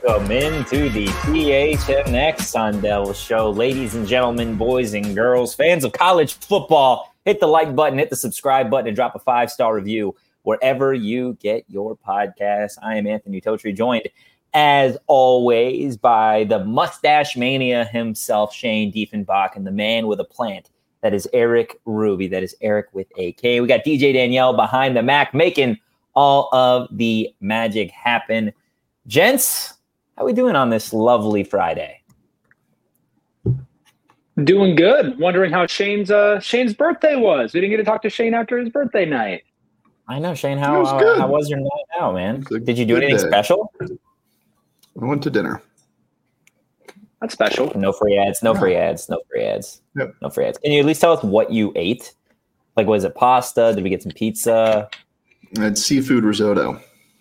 Welcome into the PHNX Sun Devils show. Ladies and gentlemen, boys and girls, fans of college football, hit the like button, hit the subscribe button, and drop a 5-star review wherever you get your podcast. I am Anthony Totri, joined, as always, by the mustache mania himself, Shane Diefenbach, and the man with a plant. That is Eric Ruby. That is Eric with a K. We got DJ Danielle behind the Mac, making all of the magic happen. Gents, how we doing on this lovely Friday? Doing good. Wondering how Shane's birthday was. We didn't get to talk to Shane after his birthday night. I know, Shane. How was your night out, man? Did you do anything special? I went to dinner. That's special. No free ads. No free ads. Yep. No free ads. Can you at least tell us what you ate? Like, was it pasta? Did we get some pizza? I had seafood risotto.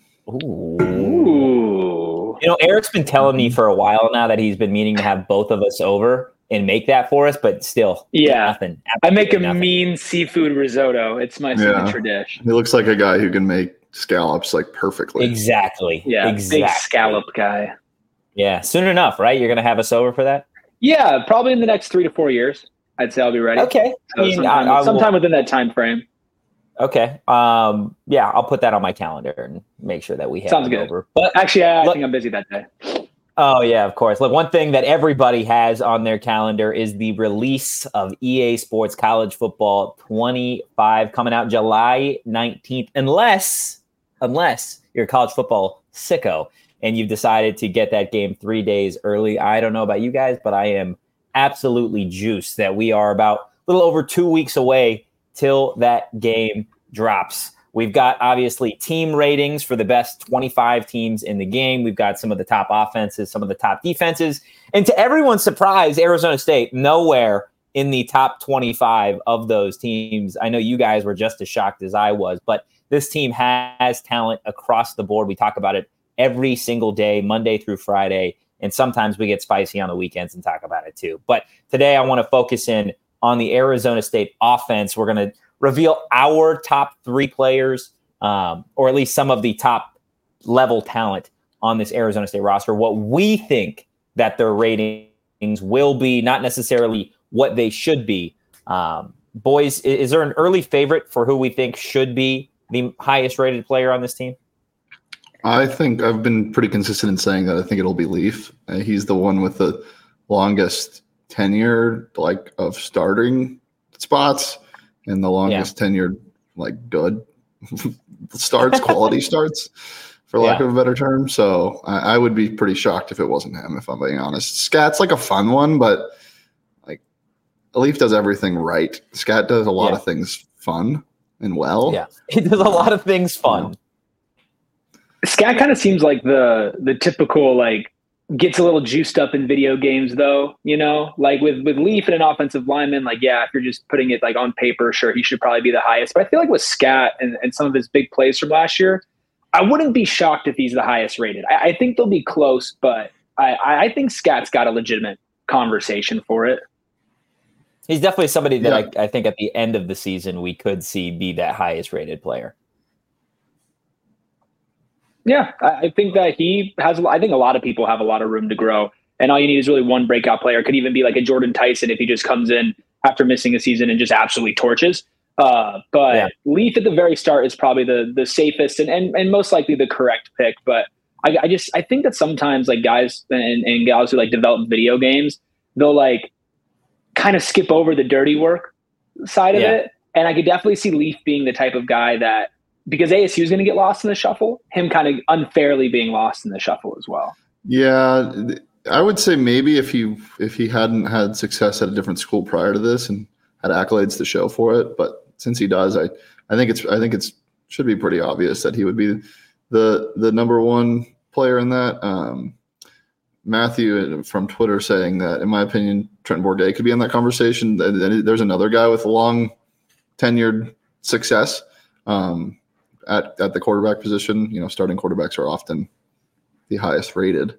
Ooh. You know, Eric's been telling me for a while now that he's been meaning to have both of us over and make that for us, but still, nothing. I make a mean seafood risotto. It's my signature dish. He looks like a guy who can make scallops like perfectly. Exactly. Yeah, big scallop guy. Yeah, soon enough, right? You're going to have us over for that? Yeah, probably in the next 3 to 4 years. I'd say I'll be ready. Okay. So sometime within that time frame. Okay. Yeah, I'll put that on my calendar and make sure that we have it over. But actually, I think I'm busy that day. Oh, yeah, of course. Look, one thing that everybody has on their calendar is the release of EA Sports College Football 25 coming out July 19th, unless you're a college football sicko and you've decided to get that game 3 days early. I don't know about you guys, but I am absolutely juiced that we are about a little over 2 weeks away till that game drops. We've got, obviously, team ratings for the best 25 teams in the game. We've got some of the top offenses, some of the top defenses. And to everyone's surprise, Arizona State, nowhere in the top 25 of those teams. I know you guys were just as shocked as I was, but this team has talent across the board. We talk about it every single day, Monday through Friday, and sometimes we get spicy on the weekends and talk about it too. But today I want to focus in on the Arizona State offense. We're going to reveal our top 3 players, or at least some of the top level talent on this Arizona State roster, what we think that their ratings will be, not necessarily what they should be. Boys, is there an early favorite for who we think should be the highest rated player on this team? I think I've been pretty consistent in saying that I think it'll be Leaf. He's the one with the longest tenure, like, of starting spots and the longest tenured, like, good starts, quality starts, for lack of a better term. So I would be pretty shocked if it wasn't him, if I'm being honest. Scat's like a fun one, but like Leaf does everything right. Scat does a lot of things fun and well. Yeah, he does a lot of things fun. Scat kind of seems like the typical, like, gets a little juiced up in video games, though, you know, like with Leaf and an offensive lineman, like, yeah, if you're just putting it like on paper, sure, he should probably be the highest. But I feel like with Scat and some of his big plays from last year, I wouldn't be shocked if he's the highest rated. I think they'll be close, but I think Scat's got a legitimate conversation for it. He's definitely somebody that I think at the end of the season we could see be that highest rated player. Yeah, I think that he has. I think a lot of people have a lot of room to grow, and all you need is really one breakout player. It could even be like a Jordan Tyson if he just comes in after missing a season and just absolutely torches. But Leaf at the very start is probably the safest and most likely the correct pick. But I think that sometimes, like, guys and gals who like develop video games, they'll like kind of skip over the dirty work side of it, and I could definitely see Leaf being the type of guy that, because ASU is going to get lost in the shuffle, him kind of unfairly being lost in the shuffle as well. Yeah, I would say maybe if he hadn't had success at a different school prior to this and had accolades to show for it, but since he does, I think it's should be pretty obvious that he would be the number one player in that. Matthew from Twitter saying that, in my opinion, Trent Bourget could be in that conversation. Then there's another guy with long tenured success. At the quarterback position, you know, starting quarterbacks are often the highest rated.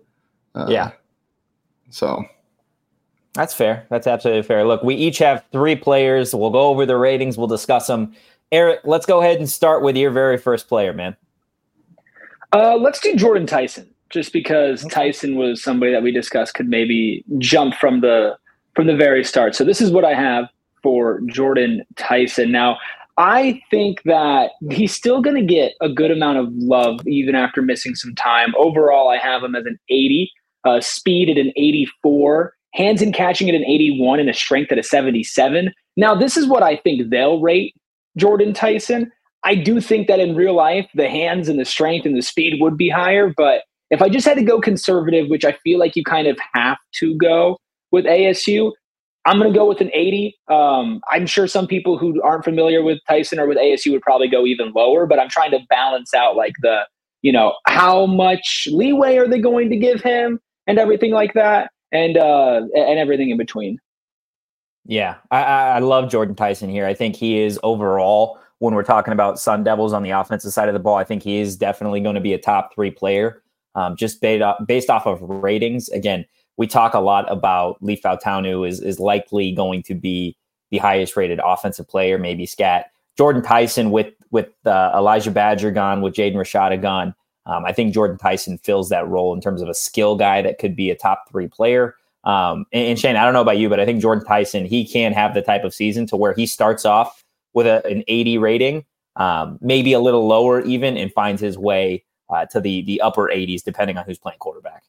So that's fair. That's absolutely fair. Look, we each have 3 players. We'll go over the ratings. We'll discuss them. Eric, let's go ahead and start with your very first player, man. Let's do Jordan Tyson. just because Tyson was somebody that we discussed could maybe jump from the very start. So this is what I have for Jordan Tyson. Now, I think that he's still going to get a good amount of love even after missing some time. Overall, I have him as an 80, speed at an 84, hands and catching at an 81, and a strength at a 77. Now, this is what I think they'll rate Jordan Tyson. I do think that in real life, the hands and the strength and the speed would be higher. But if I just had to go conservative, which I feel like you kind of have to go with ASU, I'm going to go with an 80. I'm sure some people who aren't familiar with Tyson or with ASU would probably go even lower, but I'm trying to balance out like the, how much leeway are they going to give him and everything like that, and everything in between. Yeah, I love Jordan Tyson here. I think he is overall, when we're talking about Sun Devils on the offensive side of the ball, I think he is definitely going to be a top 3 player, just based off of ratings. Again, we talk a lot about Leaf Fautanu is likely going to be the highest rated offensive player, maybe Scat. Jordan Tyson with Elijah Badger gone, with Jaden Rashada gone. I think Jordan Tyson fills that role in terms of a skill guy that could be a top 3 player. And Shane, I don't know about you, but I think Jordan Tyson, he can have the type of season to where he starts off with an 80 rating, maybe a little lower even, and finds his way to the upper 80s, depending on who's playing quarterback.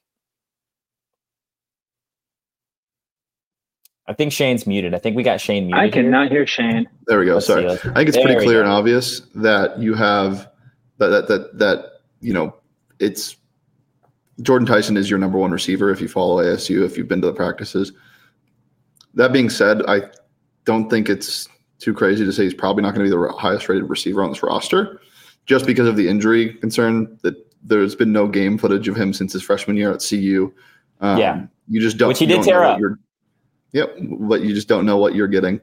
I think Shane's muted. I think we got Shane muted. I cannot hear Shane. There we go. Sorry. I think it's pretty clear and obvious that you have that it's Jordan Tyson is your number 1 receiver if you follow ASU, if you've been to the practices. That being said, I don't think it's too crazy to say he's probably not going to be the highest rated receiver on this roster, just because of the injury concern that there's been no game footage of him since his freshman year at CU. You just don't. Which he did tear up. Yep, but you just don't know what you're getting.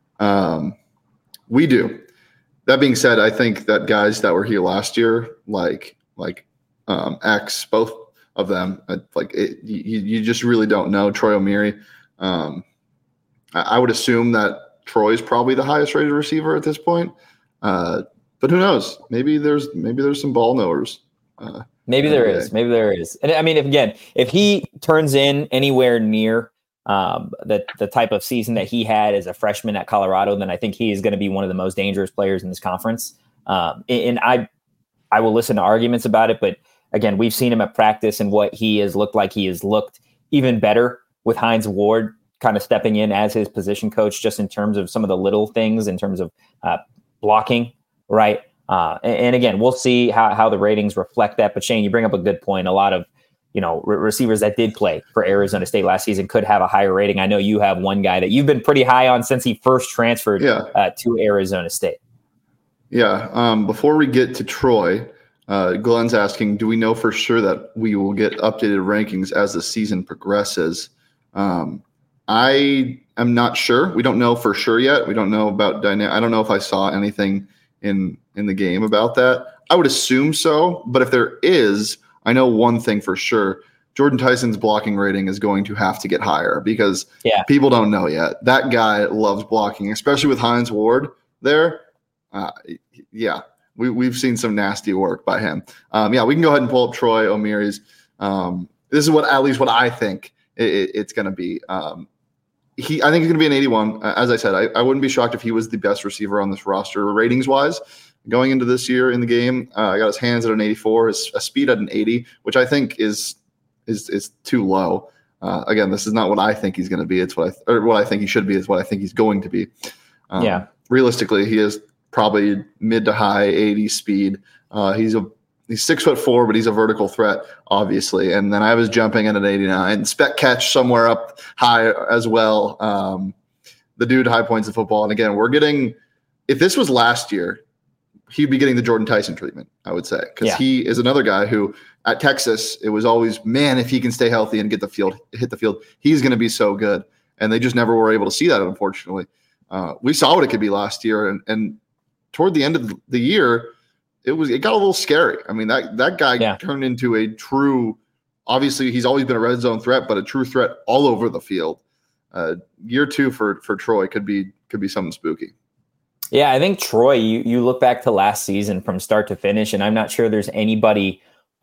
We do. That being said, I think that guys that were here last year, like X, both of them, you just really don't know. Troy O'Meara. I would assume that Troy's probably the highest rated receiver at this point. But who knows? Maybe there's some ball knowers. Maybe there is. And I mean, if he turns in anywhere near the type of season that he had as a freshman at Colorado, then I think he is going to be one of the most dangerous players in this conference. And I will listen to arguments about it, but again, we've seen him at practice and what he has looked like. He has looked even better with Hines Ward kind of stepping in as his position coach, just in terms of some of the little things in terms of blocking, right? And again, we'll see how the ratings reflect that. But Shane, you bring up a good point. A lot of receivers that did play for Arizona State last season could have a higher rating. I know you have one guy that you've been pretty high on since he first transferred to Arizona State. Yeah. Before we get to Troy, Glenn's asking, do we know for sure that we will get updated rankings as the season progresses? I am not sure. We don't know for sure yet. We don't know about I don't know if I saw anything in the game about that. I would assume so, but if there is, I know one thing for sure. Jordan Tyson's blocking rating is going to have to get higher because people don't know yet. That guy loves blocking, especially with Hines Ward there. We've seen some nasty work by him. We can go ahead and pull up Troy O'Meara's. This is at least what I think it's going to be. I think he's going to be an 81. As I said, I wouldn't be shocked if he was the best receiver on this roster ratings wise going into this year in the game. I got his hands at an 84, his speed at an 80, which I think is too low. Again, this is not what I think he's going to be. It's what I think he should be. Is what I think he's going to be. Realistically, he is probably mid to high 80 speed. He's 6'4", but he's a vertical threat, obviously. And then I was jumping at an 89. Spec catch somewhere up high as well. The dude high points of football. And again, if this was last year, he'd be getting the Jordan Tyson treatment, I would say. Because he is another guy who at Texas, it was always, man, if he can stay healthy and hit the field, he's going to be so good. And they just never were able to see that, unfortunately. We saw what it could be last year. And toward the end of the year, it got a little scary. I mean, that guy turned into a true, obviously he's always been a red zone threat, but a true threat all over the field. Year 2 for Troy could be something spooky. Yeah, I think Troy, you look back to last season from start to finish, and I'm not sure there's anybody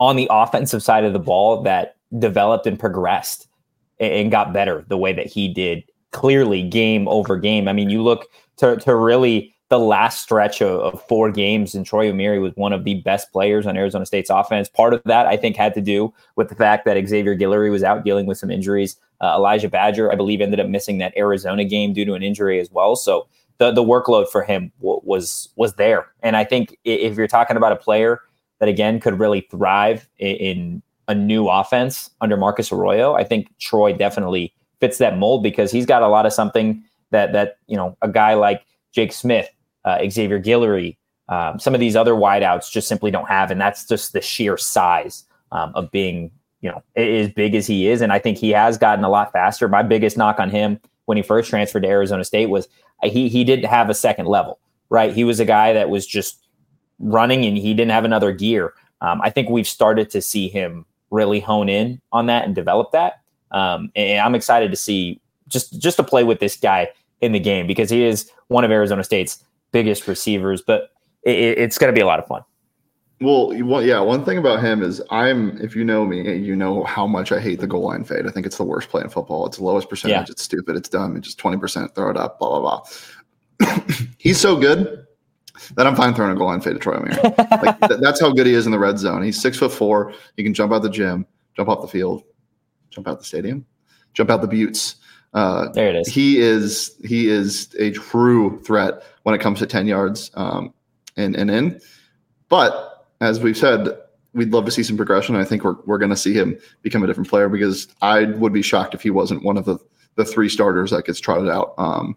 on the offensive side of the ball that developed and progressed and got better the way that he did, clearly game over game. I mean, you look to really the last stretch of 4 games, and Troy Omeire was one of the best players on Arizona State's offense. Part of that, I think, had to do with the fact that Xavier Guillory was out dealing with some injuries. Elijah Badger, I believe, ended up missing that Arizona game due to an injury as well. So the workload for him was there. And I think if you're talking about a player that, again, could really thrive in a new offense under Marcus Arroyo, I think Troy definitely fits that mold, because he's got a lot of something that a guy like Jake Smith, Xavier Guillory, some of these other wideouts just simply don't have. And that's just the sheer size of being, as big as he is. And I think he has gotten a lot faster. My biggest knock on him when he first transferred to Arizona State was he didn't have a second level, right? He was a guy that was just running and he didn't have another gear. I think we've started to see him really hone in on that and develop that. And I'm excited to see just to play with this guy in the game, because he is one of Arizona State's biggest receivers, but it's going to be a lot of fun. Well, yeah. One thing about him is if you know me, you know how much I hate the goal line fade. I think it's the worst play in football. It's the lowest percentage. Yeah. It's stupid. It's dumb. It's just 20%. Throw it up, blah, blah, blah. He's so good that I'm fine throwing a goal line fade to Troy Omeire. That's how good he is in the red zone. He's 6'4". He can jump out the gym, jump off the field, jump out the stadium, jump out the buttes. There it is. He is a true threat when it comes to 10 yards and in. But as we've said, we'd love to see some progression. I think we're going to see him become a different player, because I would be shocked if he wasn't one of the 3 starters that gets trotted out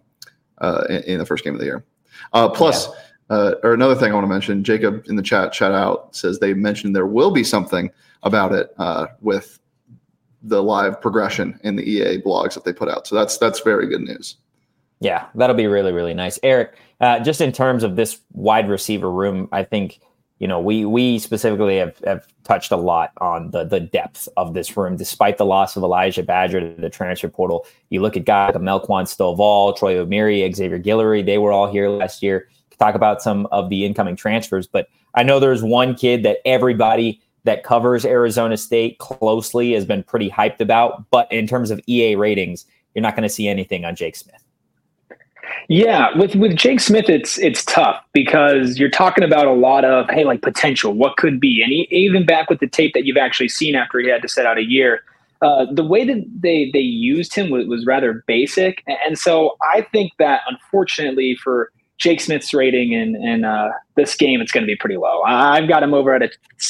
in the first game of the year. Or another thing I want to mention, Jacob in the chat out, says they mentioned there will be something about it with the live progression in the EA blogs that they put out. So that's very good news. Yeah, that'll be really, really nice. Eric, just in terms of this wide receiver room, I think, we specifically have touched a lot on the depth of this room, despite the loss of Elijah Badger to the transfer portal. You look at guys like Melquan Stovall, Troy Omeire, Xavier Guillory, they were all here last year. Talk about some of the incoming transfers, but I know there's one kid that everybody that covers Arizona State closely has been pretty hyped about, but in terms of EA ratings, you're not going to see anything on Jake Smith. Yeah, with Jake Smith, it's tough, because you're talking about a lot of, potential, what could be. And even back with the tape that you've actually seen after he had to sit out a year, the way that they used him was rather basic. And so I think that, unfortunately, for Jake Smith's rating in this game, it's going to be pretty low. I've got him over at a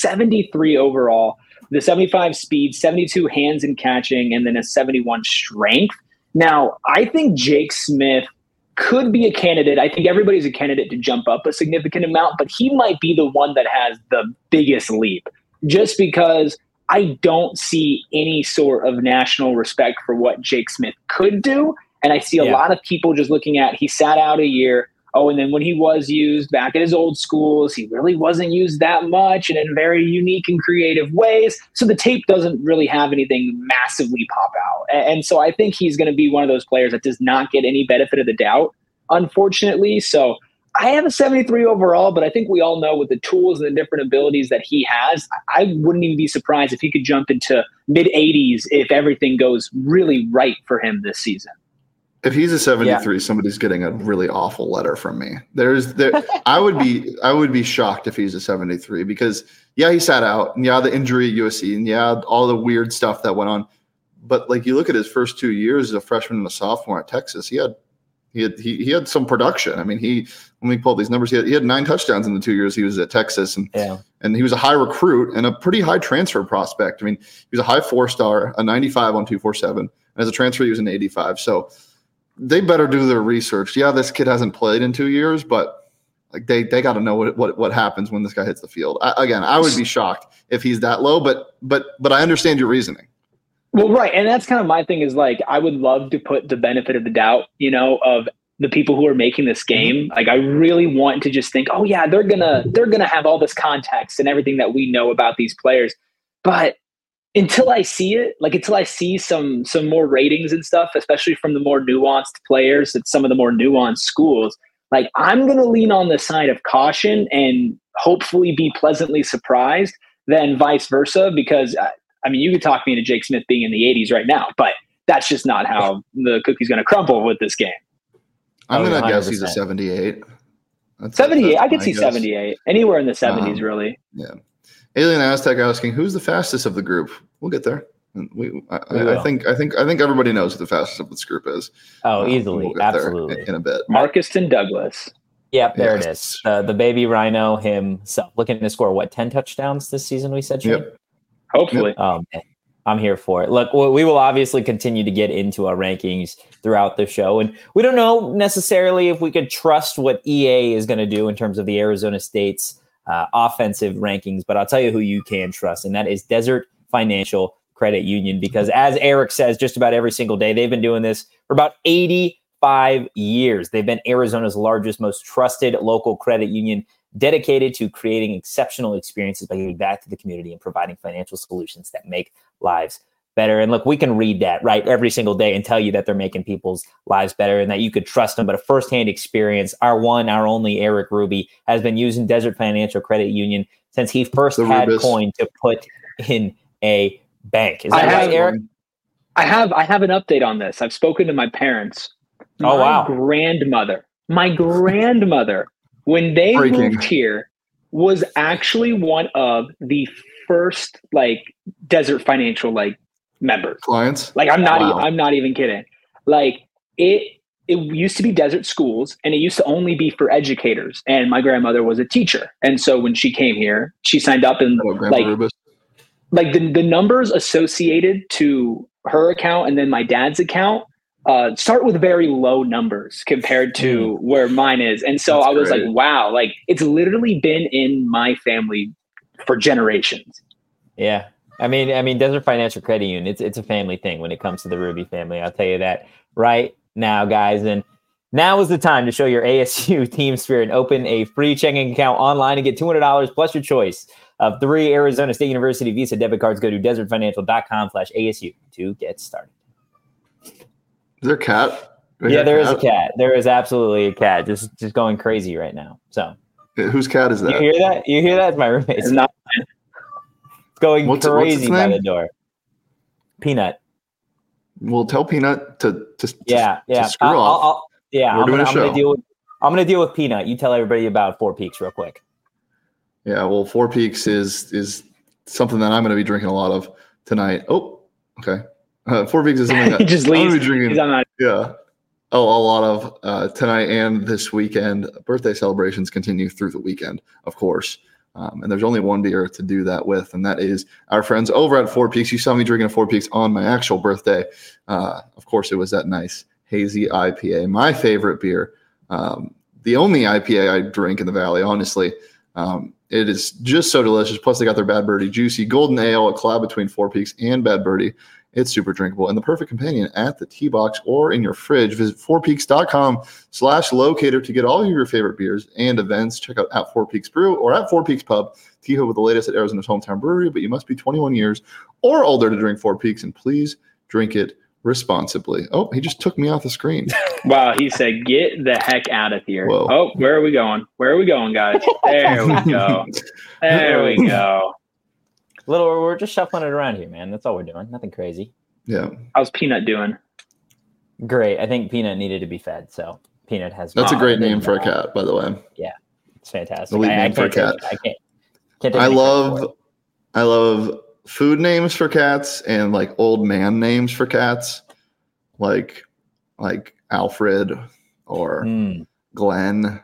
73 overall, the 75 speed, 72 hands and catching, and then a 71 strength. Now, I think Jake Smith could be a candidate. I think everybody's a candidate to jump up a significant amount, but he might be the one that has the biggest leap, just because I don't see any sort of national respect for what Jake Smith could do. And I see a lot of people just looking at, he sat out a year. Oh, and then when he was used back at his old schools, he really wasn't used that much and in very unique and creative ways. So the tape doesn't really have anything massively pop out. And so I think he's going to be one of those players that does not get any benefit of the doubt, unfortunately. So I have a 73 overall, but I think we all know with the tools and the different abilities that he has, I wouldn't even be surprised if he could jump into mid-80s if everything goes really right for him this season. If he's a 73, somebody's getting a really awful letter from me. I would be shocked if he's a 73, because he sat out, and the injury at USC, and all the weird stuff that went on. But you look at his first 2 years as a freshman and a sophomore at Texas, he had some production. I mean, when we pulled these numbers, he had 9 touchdowns in the 2 years he was at Texas, and he was a high recruit and a pretty high transfer prospect. I mean, he was a high 4-star, a 95 on 247, and as a transfer he was an 85. So they better do their research. Yeah, this kid hasn't played in 2 years, but they got to know what happens when this guy hits the field. I would be shocked if he's that low, but I understand your reasoning. Well, right, and that's kind of my thing is I would love to put the benefit of the doubt, of the people who are making this game. I really want to just think, oh yeah, they're gonna have all this context and everything that we know about these players, but until I see it, until I see some more ratings and stuff, especially from the more nuanced players at some of the more nuanced schools, I'm going to lean on the side of caution and hopefully be pleasantly surprised than vice versa, because I mean, you could talk me into Jake Smith being in the 80s right now, but that's just not how the cookie's going to crumble with this game. I'm going to guess he's a 78. 78. I could see guess. 78. Anywhere in the 70s, really. Yeah. Alien Aztec asking, who's the fastest of the group? We'll get there. I think everybody knows who the fastest of this group is. Oh, easily, we'll absolutely. In a bit. Marcuston Douglas. Yep, there it is. The baby rhino himself, looking to score 10 touchdowns this season? We said, Shane? Yep. Hopefully. Yep. I'm here for it. Look, we will obviously continue to get into our rankings throughout the show, and we don't know necessarily if we could trust what EA is going to do in terms of the Arizona State's offensive rankings. But I'll tell you who you can trust, and that is Desert Financial Credit Union, because as Eric says just about every single day, they've been doing this for about 85 years. They've been Arizona's largest, most trusted local credit union, dedicated to creating exceptional experiences by giving back to the community and providing financial solutions that make lives better. And look, we can read that right every single day and tell you that they're making people's lives better and that you could trust them. But a firsthand experience, our only Eric Ruby has been using Desert Financial Credit Union since he first had coin to put in a bank. Is that right, Eric? I have an update on this. I've spoken to my parents. My grandmother, when they moved here, was actually one of the first Desert Financial members. Clients? I'm not even kidding. It used to be Desert Schools, and it used to only be for educators. And my grandmother was a teacher, and so when she came here, she signed up and the numbers associated to her account and then my dad's account start with very low numbers compared to where mine is. And so I was great. Wow, it's literally been in my family for generations. Yeah. I mean, Desert Financial Credit Union, it's a family thing when it comes to the Ruby family. I'll tell you that right now, guys. And now is the time to show your ASU team spirit and open a free checking account online and get $200 plus your choice of 3 Arizona State University Visa debit cards. Go to desertfinancial.com/ASU to get started. Is there a cat? There is a cat. There is absolutely a cat just going crazy right now. So whose cat is that? You hear that? You hear that? It's my roommate's. It's going crazy by the door. Peanut. We'll tell Peanut to screw off. We're doing a show. I'm going to deal with Peanut. You tell everybody about Four Peaks real quick. Yeah, well, Four Peaks is something that I'm going to be drinking a lot of tonight. Oh, okay. 4 Peaks is something that he just leaves. I'm going to be drinking. Yeah. A lot of tonight and this weekend. Birthday celebrations continue through the weekend, of course. And there's only one beer to do that with, and that is our friends over at 4 Peaks. You saw me drinking a 4 Peaks on my actual birthday. Of course, it was that nice hazy IPA, my favorite beer. The only IPA I drink in the Valley, honestly. It is just so delicious. Plus, they got their Bad Birdie Juicy Golden Ale, a collab between 4 Peaks and Bad Birdie. It's super drinkable and the perfect companion at the tea box or in your fridge. Visit 4peaks.com/locator to get all of your favorite beers and events. Check out at 4 Peaks Brew or at 4 Peaks Pub. Teho with the latest at Arizona's hometown brewery, but you must be 21 years or older to drink 4 Peaks, and please drink it responsibly. Oh, he just took me off the screen. Wow, he said, get the heck out of here. Whoa. Oh, where are we going? Where are we going, guys? There we go. There we go. We're just shuffling it around here, man. That's all we're doing. Nothing crazy. Yeah. How's Peanut doing? Great. I think Peanut needed to be fed, so Peanut has. That's a great name for a cat, by the way. Yeah, it's fantastic. The lead name for a cat. I can't. I love food names for cats and old man names for cats, like Alfred or Glenn.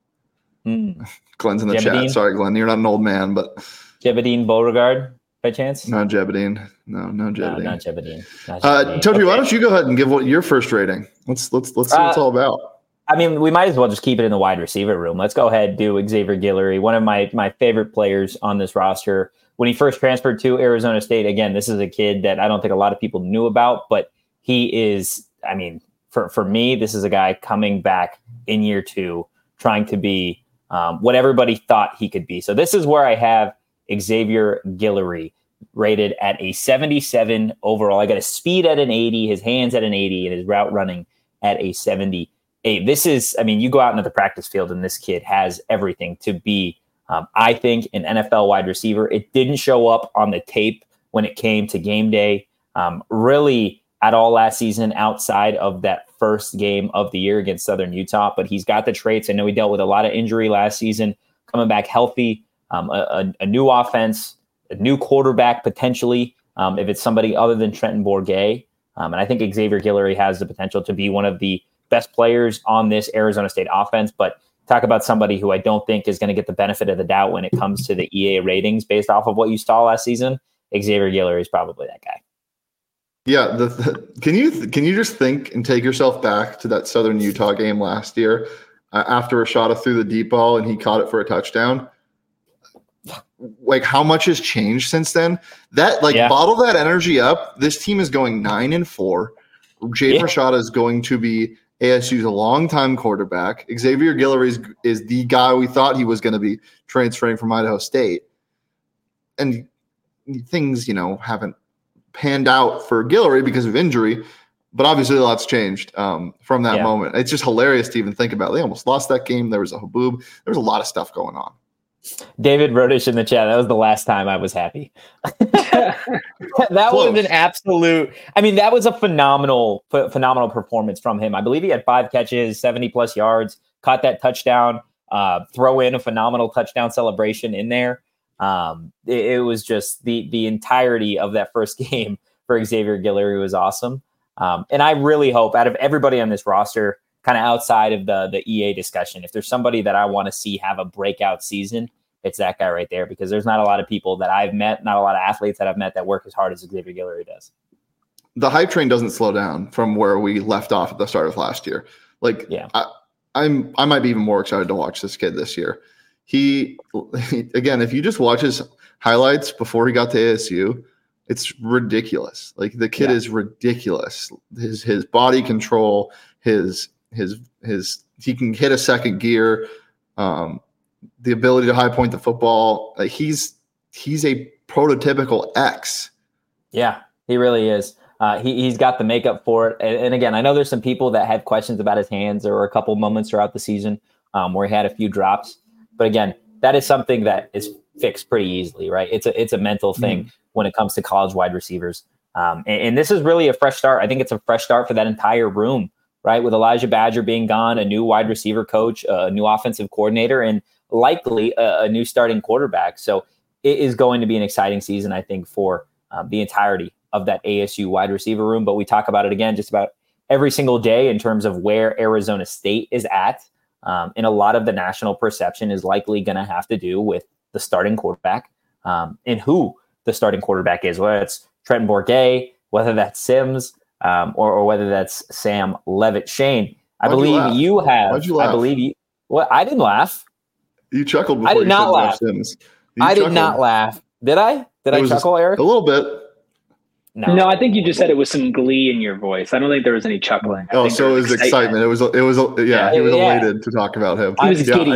Glenn's in the chat. Sorry, Glenn, you're not an old man, but. Jebediah Beauregard, by chance? Not Jebediah. No, Jebediah. No, not Jebediah. Toby, okay. Why don't you go ahead and give what your first rating? Let's see what it's all about. I mean, we might as well just keep it in the wide receiver room. Let's go ahead and do Xavier Guillory, one of my favorite players on this roster. When he first transferred to Arizona State, again, this is a kid that I don't think a lot of people knew about, but he is, I mean, for me, this is a guy coming back in year 2, trying to be what everybody thought he could be. So this is where I have Xavier Guillory rated at a 77 overall. I got his speed at an 80, his hands at an 80, and his route running at a 78. This is, I mean, you go out into the practice field and this kid has everything to be I think an NFL wide receiver. It didn't show up on the tape when it came to game day, really at all last season outside of that first game of the year against Southern Utah. But he's got the traits. I know he dealt with a lot of injury last season, coming back healthy, a new offense, a new quarterback potentially, if it's somebody other than Trenton Bourguet. And I think Xavier Guillory has the potential to be one of the best players on this Arizona State offense. But talk about somebody who I don't think is going to get the benefit of the doubt when it comes to the EA ratings based off of what you saw last season. Xavier Guillory is probably that guy. Yeah, can you just think and take yourself back to that Southern Utah game last year after Rashada threw the deep ball and he caught it for a touchdown? Like, how much has changed since then? Bottle that energy up. This team is going 9-4. Jaden Rashada is going to be ASU's longtime quarterback. Xavier Guillory is the guy we thought he was going to be transferring from Idaho State. And things, haven't panned out for Guillory because of injury, but obviously a lot's changed from that moment. It's just hilarious to even think about. They almost lost that game. There was a haboob. There was a lot of stuff going on. David Rodish in the chat. That was the last time I was happy. That was an absolute. I mean, that was a phenomenal performance from him. I believe he had 5 catches, 70+ yards, caught that touchdown. Throw in a phenomenal touchdown celebration in there. It was just the entirety of that first game for Xavier Guillory was awesome. And I really hope out of everybody on this roster, kind of outside of the EA discussion, if there's somebody that I want to see have a breakout season, it's that guy right there, because there's not a lot of people that I've met, not a lot of athletes that I've met that work as hard as Xavier Guillory does. The hype train doesn't slow down from where we left off at the start of last year. I might be even more excited to watch this kid this year. He again, if you just watch his highlights before he got to ASU, it's ridiculous. Like, the kid is ridiculous. His body control, his he can hit a second gear, the ability to high point the football. He's a prototypical X. Yeah, he really is. He's got the makeup for it. And again, I know there's some people that had questions about his hands. There were a couple moments throughout the season where he had a few drops. But again, that is something that is fixed pretty easily, right? It's a mental thing when it comes to college wide receivers. And this is really a fresh start. I think it's a fresh start for that entire room, right? With Elijah Badger being gone, a new wide receiver coach, a new offensive coordinator, and likely a new starting quarterback. So it is going to be an exciting season, I think, for the entirety of that ASU wide receiver room. But we talk about it again just about every single day in terms of where Arizona State is at. And a lot of the national perception is likely going to have to do with the starting quarterback and who the starting quarterback is, whether it's Trenton Bourguet, whether that's Sims, or whether that's Sam Levitt. Shane, I believe you have. Why'd you laugh? I believe you. Well, I didn't laugh. You chuckled before I did you not said laugh. Sims. I did not laugh. Did I? Did I chuckle, Eric? A little bit. No, I think you just said it was some glee in your voice. I don't think there was any chuckling. Oh, so it was excitement. He was elated to talk about him. He was giddy.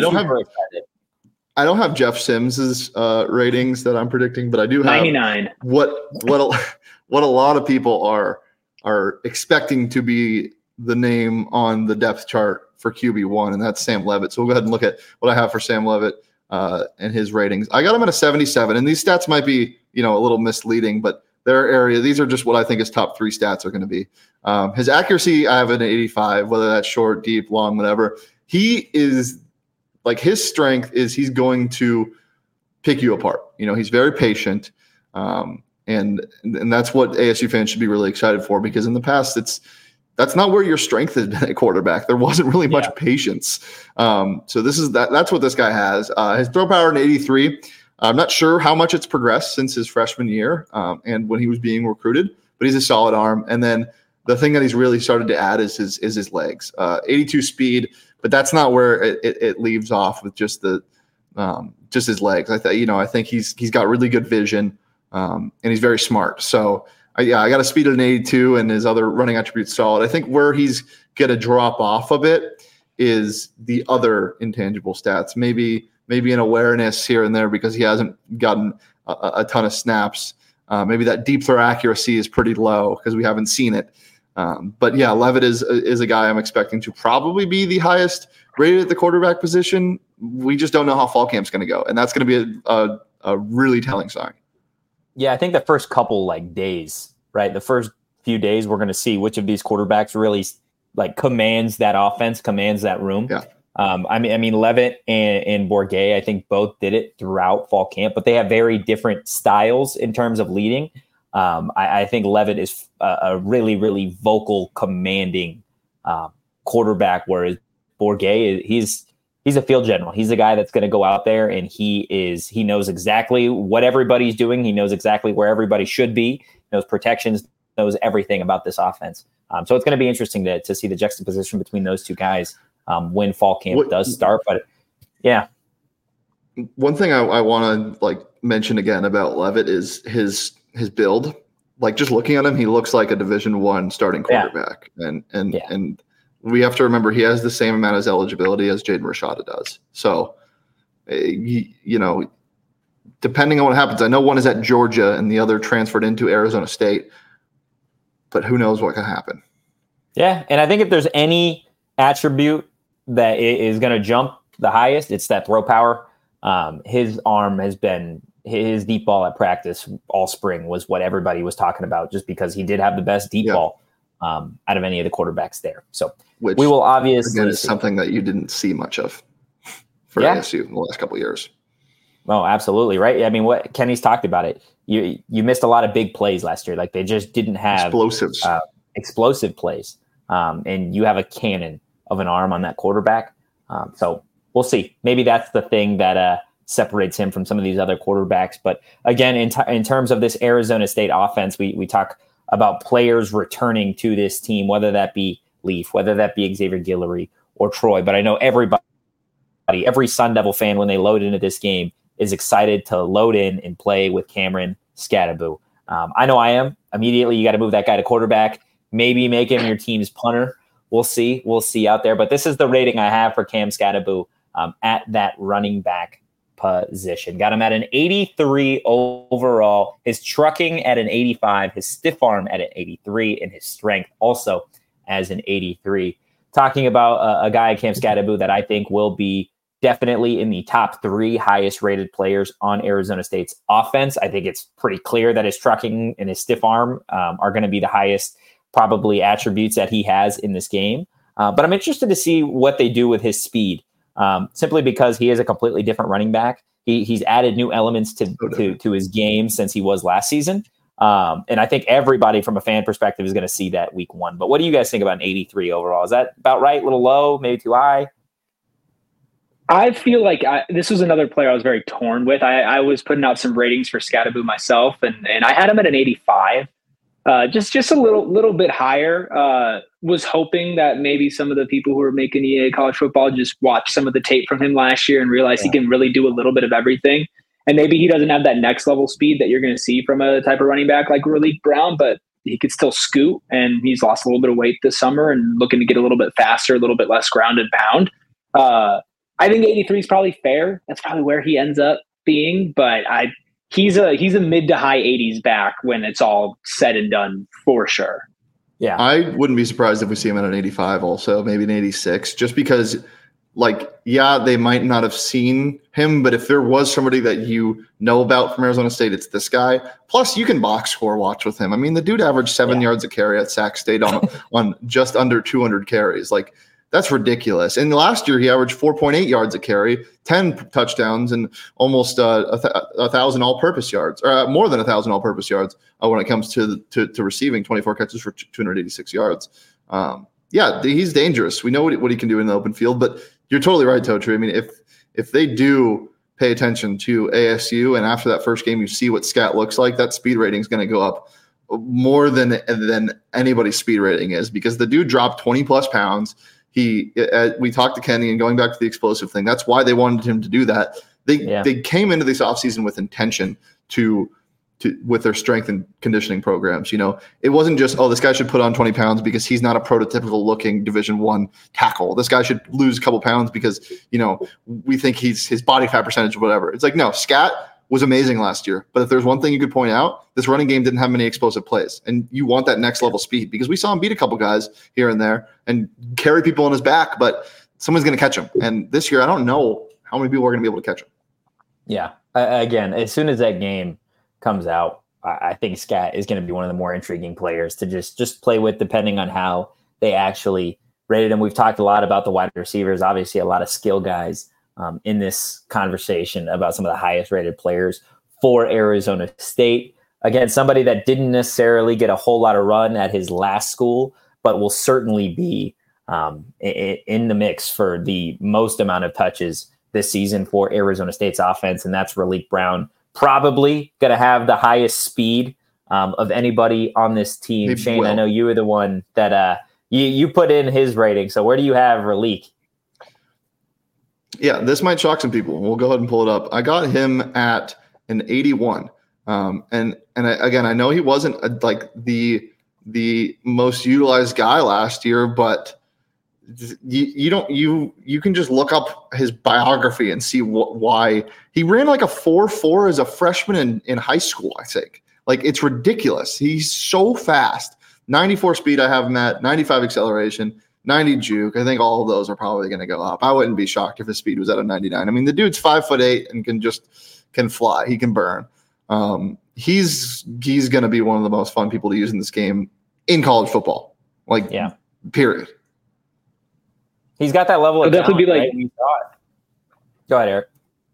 I don't have Jeff Sims's ratings that I'm predicting, but I do have 99. What a lot of people are expecting to be the name on the depth chart for QB1, and that's Sam Levitt. So we'll go ahead and look at what I have for Sam Levitt and his ratings. I got him at a 77, and these stats might be a little misleading, but their area, these are just what I think his top 3 stats are going to be. His accuracy, I have an 85, whether that's short, deep, long, whatever. He is his strength is he's going to pick you apart. He's very patient. And that's what ASU fans should be really excited for, because in the past, that's not where your strength has been at quarterback. There wasn't really much patience. So that's what this guy has. His throw power, an 83. I'm not sure how much it's progressed since his freshman year and when he was being recruited, but he's a solid arm. And then the thing that he's really started to add is his legs. 82 speed, but that's not where it leaves off with just his legs. I think he's got really good vision and he's very smart. So I got a speed of an 82 and his other running attributes solid. I think where he's going to drop off a bit is the other intangible stats. Maybe an awareness here and there because he hasn't gotten a ton of snaps. Maybe that deep throw accuracy is pretty low because we haven't seen it. But yeah, Levitt is a guy I'm expecting to probably be the highest rated at the quarterback position, we just don't know how fall camp's going to go. And that's going to be a really telling sign. Yeah, I think the first couple days, right? The first few days, we're going to see which of these quarterbacks really commands that offense, commands that room. Yeah. I mean, Levitt and Bourguet, I think both did it throughout fall camp, but they have very different styles in terms of leading. I think Levitt is a really, really vocal, commanding quarterback, whereas Bourguet, he's a field general. He's the guy that's going to go out there and he knows exactly what everybody's doing. He knows exactly where everybody should be, knows protections, knows everything about this offense. So it's going to be interesting to see the juxtaposition between those two guys when fall camp does start. But yeah. One thing I want to mention again about Levitt is his build. Just looking at him, he looks like a Division I starting quarterback. Yeah. And we have to remember he has the same amount of eligibility as Jaden Rashada does. So, depending on what happens, I know one is at Georgia and the other transferred into Arizona State, but who knows what can happen. Yeah. And I think if there's any attribute that is going to jump the highest, it's that throw power. His arm has been his deep ball at practice all spring was what everybody was talking about, just because he did have the best deep ball out of any of the quarterbacks there. So we will obviously again, it's something that you didn't see much of for ASU in the last couple of years. Oh, absolutely. Right. I mean, what Kenny's talked about it. You missed a lot of big plays last year. They just didn't have explosive plays. And you have a cannon of an arm on that quarterback. So we'll see. Maybe that's the thing that separates him from some of these other quarterbacks. But again, in terms of this Arizona State offense, we talk about players returning to this team, whether that be Leaf, whether that be Xavier Guillory or Troy. But I know every Sun Devil fan, when they load into this game, is excited to load in and play with Cameron Skattebo. I know I am. Immediately, you got to move that guy to quarterback. Maybe make him your team's punter. We'll see. We'll see out there. But this is the rating I have for Cam Skattebo at that running back position. Got him at an 83 overall. His trucking at an 85. His stiff arm at an 83. And his strength also as an 83. Talking about a guy, Cam Skattebo, that I think will be definitely in the top 3 highest rated players on Arizona State's offense. I think it's pretty clear that his trucking and his stiff arm are going to be the highest probably attributes that he has in this game. But I'm interested to see what they do with his speed, simply because he is a completely different running back. He's added new elements to his game since he was last season. And I think everybody from a fan perspective is going to see that week 1. But what do you guys think about an 83 overall? Is that about right? A little low, maybe too high? I feel like this was another player I was very torn with. I was putting out some ratings for Skattebo myself, and I had him at an 85. Just a little bit higher. Was hoping that maybe some of the people who are making EA college football just watch some of the tape from him last year and realize he can really do a little bit of everything. And maybe he doesn't have that next level speed that you're going to see from a type of running back like Raleek Brown, but he could still scoot, and he's lost a little bit of weight this summer and looking to get a little bit faster, a little bit less ground and pound. I think 83 is probably fair. That's probably where he ends up being, but he's a mid to high 80s back when it's all said and done for sure. Yeah. I wouldn't be surprised if we see him at an 85 also, maybe an 86, just because they might not have seen him, but if there was somebody that you know about from Arizona State, it's this guy. Plus you can box score watch with him. I mean, the dude averaged 7 yards a carry at Sac State on just under 200 carries. That's ridiculous. And last year he averaged 4.8 yards a carry, 10 touchdowns, and almost 1,000 all-purpose yards, or more than 1,000 all-purpose yards when it comes to receiving, 24 catches for 286 yards. He's dangerous. We know what he can do in the open field, but you're totally right, Totri. I mean, if they do pay attention to ASU, and after that first game you see what Scat looks like, that speed rating is going to go up more than anybody's speed rating is, because the dude dropped 20-plus pounds. We talked to Kenny, and going back to the explosive thing, that's why they wanted him to do that. They came into this offseason with intention with their strength and conditioning programs. It wasn't just, this guy should put on 20 pounds because he's not a prototypical looking Division I tackle. This guy should lose a couple pounds because, we think his body fat percentage or whatever. It's no, Scat was amazing last year. But if there's one thing you could point out, this running game didn't have many explosive plays. And you want that next level speed, because we saw him beat a couple guys here and there and carry people on his back. But someone's going to catch him. And this year, I don't know how many people are going to be able to catch him. Yeah. Again, as soon as that game comes out, I think Scat is going to be one of the more intriguing players to just play with, depending on how they actually rated him. We've talked a lot about the wide receivers, obviously a lot of skill guys in this conversation about some of the highest rated players for Arizona State. Again, somebody that didn't necessarily get a whole lot of run at his last school, but will certainly be in the mix for the most amount of touches this season for Arizona State's offense, and that's Raleek Brown. Probably going to have the highest speed of anybody on this team. Shane, I know you were the one that you put in his rating. So where do you have Raleek? Yeah, this might shock some people. We'll go ahead and pull it up. I got him at an 81. Again, I know he wasn't like the most utilized guy last year, but you can just look up his biography and see why he ran like a 4.4 as a freshman in high school. I think like it's ridiculous. He's so fast. 94 speed. I have him at 95 acceleration, 90 juke. I think all of those are probably going to go up. I wouldn't be shocked if his speed was at a 99. I mean, the dude's 5'8" and can fly. He can burn. He's going to be one of the most fun people to use in this game in college football. Like, yeah, period. He's got that level of definitely talent, be like. Right? Go ahead, Eric.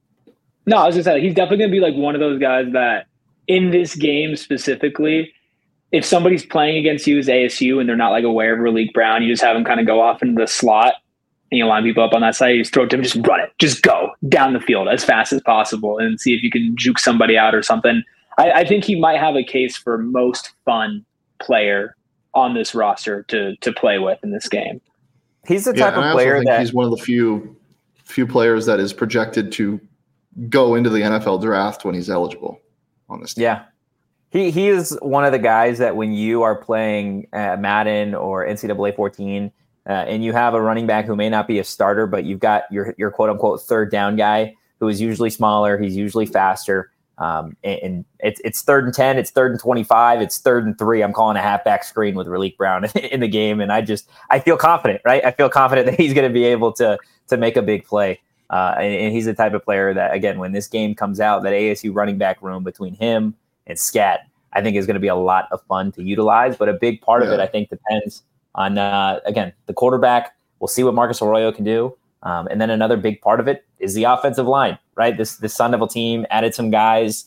No, I was just saying he's definitely going to be like one of those guys that in this game specifically, if somebody's playing against you as ASU and they're not like aware of Raleek Brown, you just have him kind of go off into the slot and you line people up on that side. You just throw it to him, just run it, just go down the field as fast as possible and see if you can juke somebody out or something. I think he might have a case for most fun player on this roster to play with in this game. He's the type of player that he's one of the few players that is projected to go into the NFL draft when he's eligible on this team. Yeah. He is one of the guys that when you are playing Madden or NCAA 14 and you have a running back who may not be a starter, but you've got your quote unquote third down guy who is usually smaller. He's usually faster. And it's 3rd and 10, it's 3rd and 25, it's 3rd and 3. I'm calling a halfback screen with Raleek Brown in the game. And I feel confident, right? I feel confident that he's going to be able to make a big play. And he's the type of player that, again, when this game comes out, that ASU running back room between him and Scat, I think is going to be a lot of fun to utilize. But a big part of it, I think, depends on, again, the quarterback. We'll see what Marcus Arroyo can do. And then another big part of it is the offensive line, right? This Sun Devil team added some guys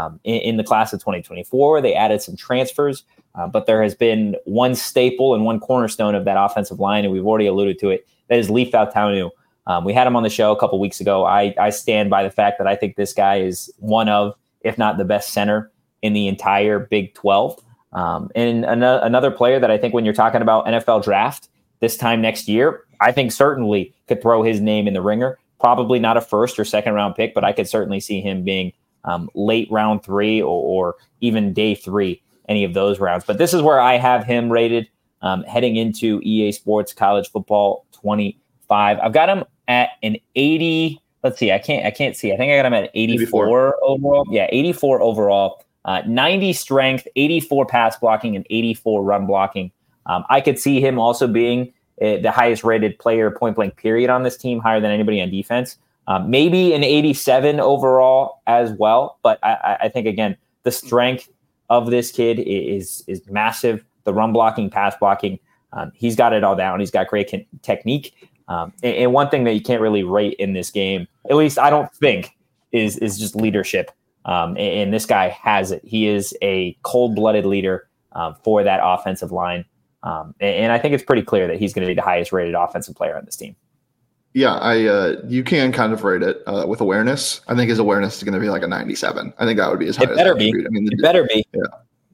in the class of 2024. They added some transfers, but there has been one staple and one cornerstone of that offensive line, and we've already alluded to it. That is Leaf Fautanu. We had him on the show a couple weeks ago. I stand by the fact that I think this guy is one of, if not the best center in the entire Big 12. And another player that I think when you're talking about NFL draft this time next year, I think certainly could throw his name in the ringer. Probably not a 1st or 2nd round pick, but I could certainly see him being late round 3 or even day 3, any of those rounds. But this is where I have him rated heading into EA Sports College Football 25. I've got him at an 80. Let's see. I can't see. I think I got him at 84 overall. Yeah, 84 overall. 90 strength, 84 pass blocking, and 84 run blocking. I could see him also being the highest rated player point blank period on this team, higher than anybody on defense. Maybe an 87 overall as well. But I think, again, the strength of this kid is massive. The run blocking, pass blocking, he's got it all down. He's got great technique. And one thing that you can't really rate in this game, at least I don't think, is just leadership. And this guy has it. He is a cold-blooded leader for that offensive line. And I think it's pretty clear that he's going to be the highest rated offensive player on this team. Yeah, you can kind of rate it with awareness. I think his awareness is going to be like a 97. I think that would be his highest. It better be. I mean, it better be. Yeah.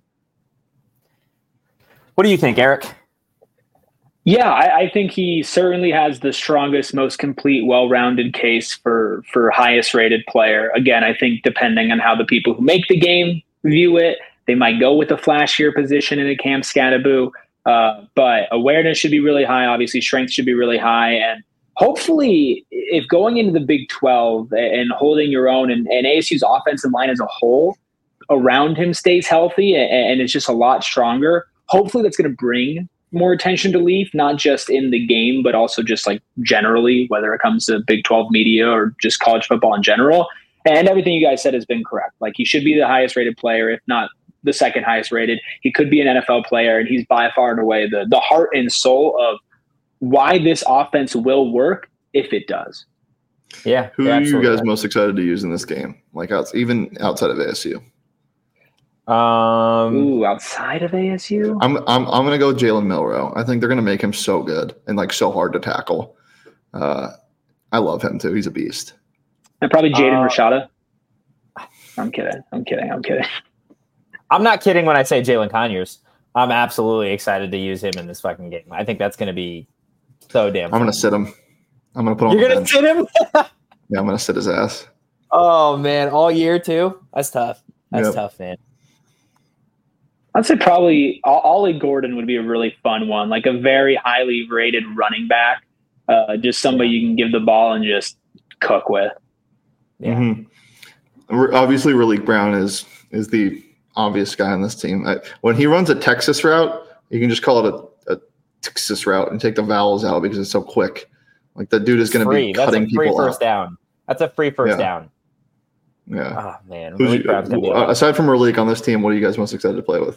What do you think, Eric? Yeah, I think he certainly has the strongest, most complete, well-rounded case for highest rated player. Again, I think depending on how the people who make the game view it, they might go with a flashier position in a Cam Skattebo. But awareness should be really high. Obviously, strength should be really high. And hopefully, if going into the Big 12 and holding your own and ASU's offensive line as a whole around him stays healthy and it's just a lot stronger, hopefully that's going to bring more attention to Leaf, not just in the game, but also just like generally, whether it comes to Big 12 media or just college football in general. And everything you guys said has been correct. Like, he should be the highest rated player, if not the second highest rated. He could be an NFL player, and he's by far and away the heart and soul of why this offense will work if it does. Yeah. Who are you guys most excited to use in this game? Like, even outside of ASU? Outside of ASU? I'm gonna go Jalen Milroe. I think they're gonna make him so good and like so hard to tackle. I love him too. He's a beast. And probably Jaden Rashada. I'm kidding. I'm not kidding when I say Jalen Conyers. I'm absolutely excited to use him in this fucking game. I think that's going to be so damn fun. I'm going to sit him. I'm going to put him on the bench. You're going to sit him? Yeah, I'm going to sit his ass. Oh, man. All year, too? That's tough. That's tough, man. I'd say probably Ollie Gordon would be a really fun one, like a very highly rated running back. Just somebody you can give the ball and just cook with. Yeah. Mm-hmm. Obviously, Raleek Brown is the obvious guy on this team. When he runs a Texas route, you can just call it a Texas route and take the vowels out because it's so quick. Like, that dude is going to be cutting people off. First down. That's a free first down. Yeah. Oh, man. Aside from Raleek on this team, what are you guys most excited to play with?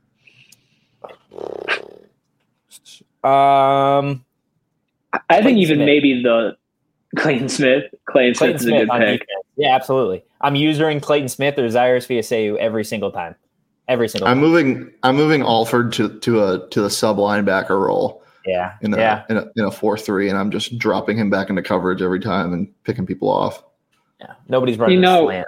I think even maybe the Clayton Smith. Clayton Smith is a good pick. Defense. Yeah, absolutely. I'm using Clayton Smith or Zyrus Fiaseu every single time. I'm moving Alford to the sub linebacker role. Yeah. In a 4-3, and I'm just dropping him back into coverage every time and picking people off. Yeah. Nobody's running a slant.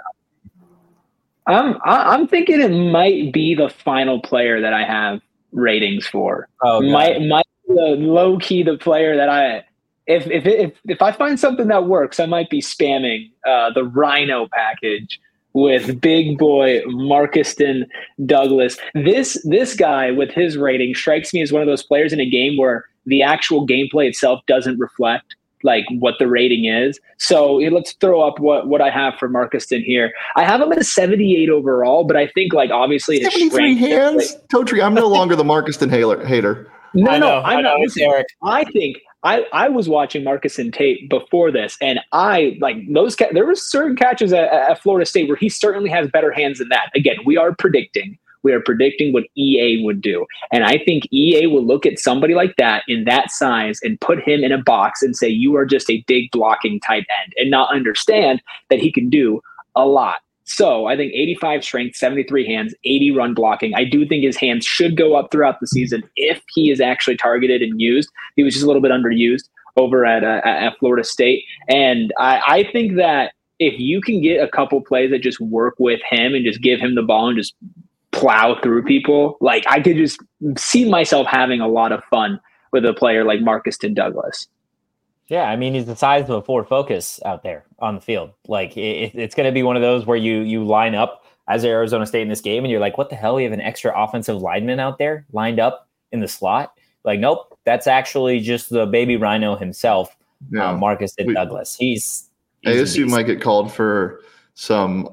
I'm thinking it might be the final player that I have ratings for. Oh, might low key the player that if I find something that works, I might be spamming the Rhino package with big boy Marcuston Douglas. This guy with his rating strikes me as one of those players in a game where the actual gameplay itself doesn't reflect like what the rating is. So let's throw up what I have for Marcuston here. I have him at a 78 overall, but I think like obviously 73 hands. Totri, I'm no longer the Marcuston hater. No, I'm not. Listen, I think I was watching Marcuston tape before this, and I like those. There were certain catches at Florida State where he certainly has better hands than that. Again, we are predicting what EA would do, and I think EA will look at somebody like that in that size and put him in a box and say you are just a big blocking tight end, and not understand that he can do a lot. So I think 85 strength, 73 hands, 80 run blocking. I do think his hands should go up throughout the season if he is actually targeted and used. He was just a little bit underused over at Florida State. And I think that if you can get a couple plays that just work with him and just give him the ball and just plow through people, like I could just see myself having a lot of fun with a player like Marcuston Douglas. Yeah, I mean, he's the size of a Ford Focus out there on the field. Like, it's going to be one of those where you line up as Arizona State in this game, and you're like, what the hell? We have an extra offensive lineman out there lined up in the slot? Like, nope, that's actually just the baby Rhino himself, Marcuston Douglas. He's ASU might get called for some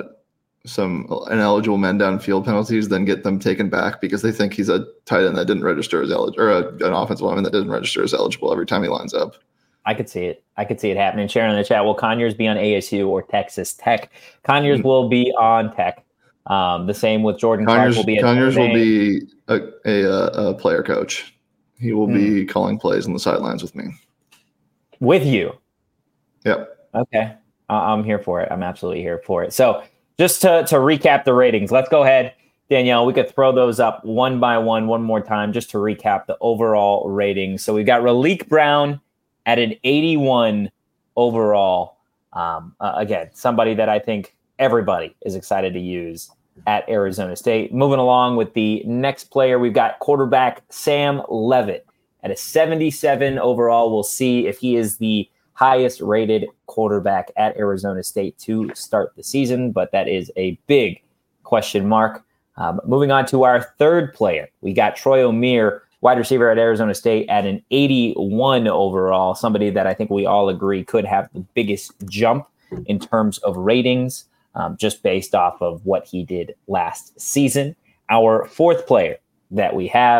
ineligible men downfield penalties, then get them taken back because they think he's a tight end that didn't register as eligible, or an offensive lineman that didn't register as eligible every time he lines up. I could see it. happening. Sharon in the chat, will Conyers be on ASU or Texas Tech? Conyers will be on Tech. The same with Jordan Clark. Conyers will be a player coach. He will be calling plays on the sidelines with me. With you? Yep. Okay. I'm here for it. I'm absolutely here for it. So just to recap the ratings, let's go ahead, Danielle. We could throw those up one by one more time just to recap the overall ratings. So we've got Raleek Brown at an 81 overall. Again, somebody that I think everybody is excited to use at Arizona State. Moving along with the next player, we've got quarterback Sam Leavitt at a 77 overall. We'll see if he is the highest rated quarterback at Arizona State to start the season, but that is a big question mark. Moving on to our third player, we got Troy Omeire, wide receiver at Arizona State, at an 81 overall, somebody that I think we all agree could have the biggest jump in terms of ratings, just based off of what he did last season. Our fourth player that we have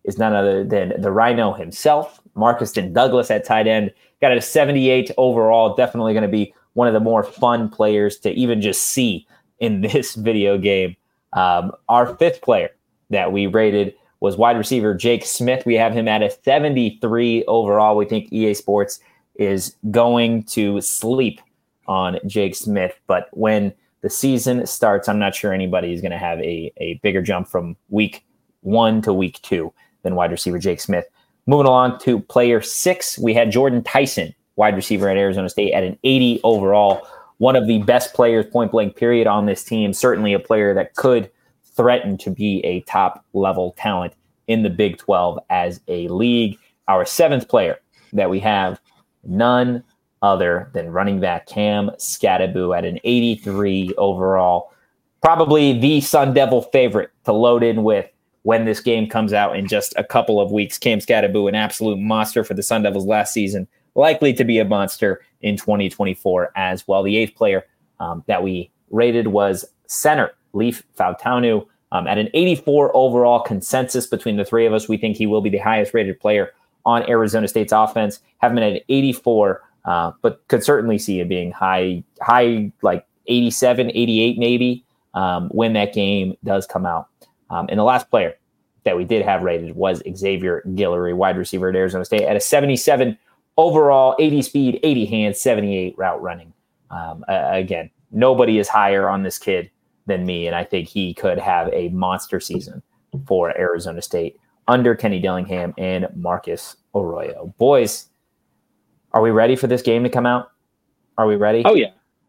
is none other than the Rhino himself, Marcuston Douglas at tight end. Got a 78 overall. Definitely going to be one of the more fun players to even just see in this video game. Our fifth player that we rated was wide receiver Jake Smith. We have him at a 73 overall. We think EA Sports is going to sleep on Jake Smith. But when the season starts, I'm not sure anybody is going to have a bigger jump from week 1 to week 2 than wide receiver Jake Smith. Moving along to player 6, we had Jordan Tyson, wide receiver at Arizona State, at an 80 overall. One of the best players, point blank period, on this team. Certainly a player that could threaten to be a top level talent in the Big 12 as a league. Our 7th player that we have, none other than running back Cam Skattebo at an 83 overall. Probably the Sun Devil favorite to load in with when this game comes out in just a couple of weeks. Cam Skattebo, an absolute monster for the Sun Devils last season, likely to be a monster in 2024 as well. The 8th player that we rated was center Leif Fautanu at an 84 overall. Consensus between the three of us, we think he will be the highest rated player on Arizona State's offense. Have him at an 84, but could certainly see it being high like 87, 88 maybe when that game does come out. And the last player that we did have rated was Xavier Guillory, wide receiver at Arizona State, at a 77 overall, 80 speed, 80 hands, 78 route running. Again, nobody is higher on this kid than me, and I think he could have a monster season for Arizona State under Kenny Dillingham and Marcus Arroyo. Boys, are we ready for this game to come out? Are we ready? Oh, yeah.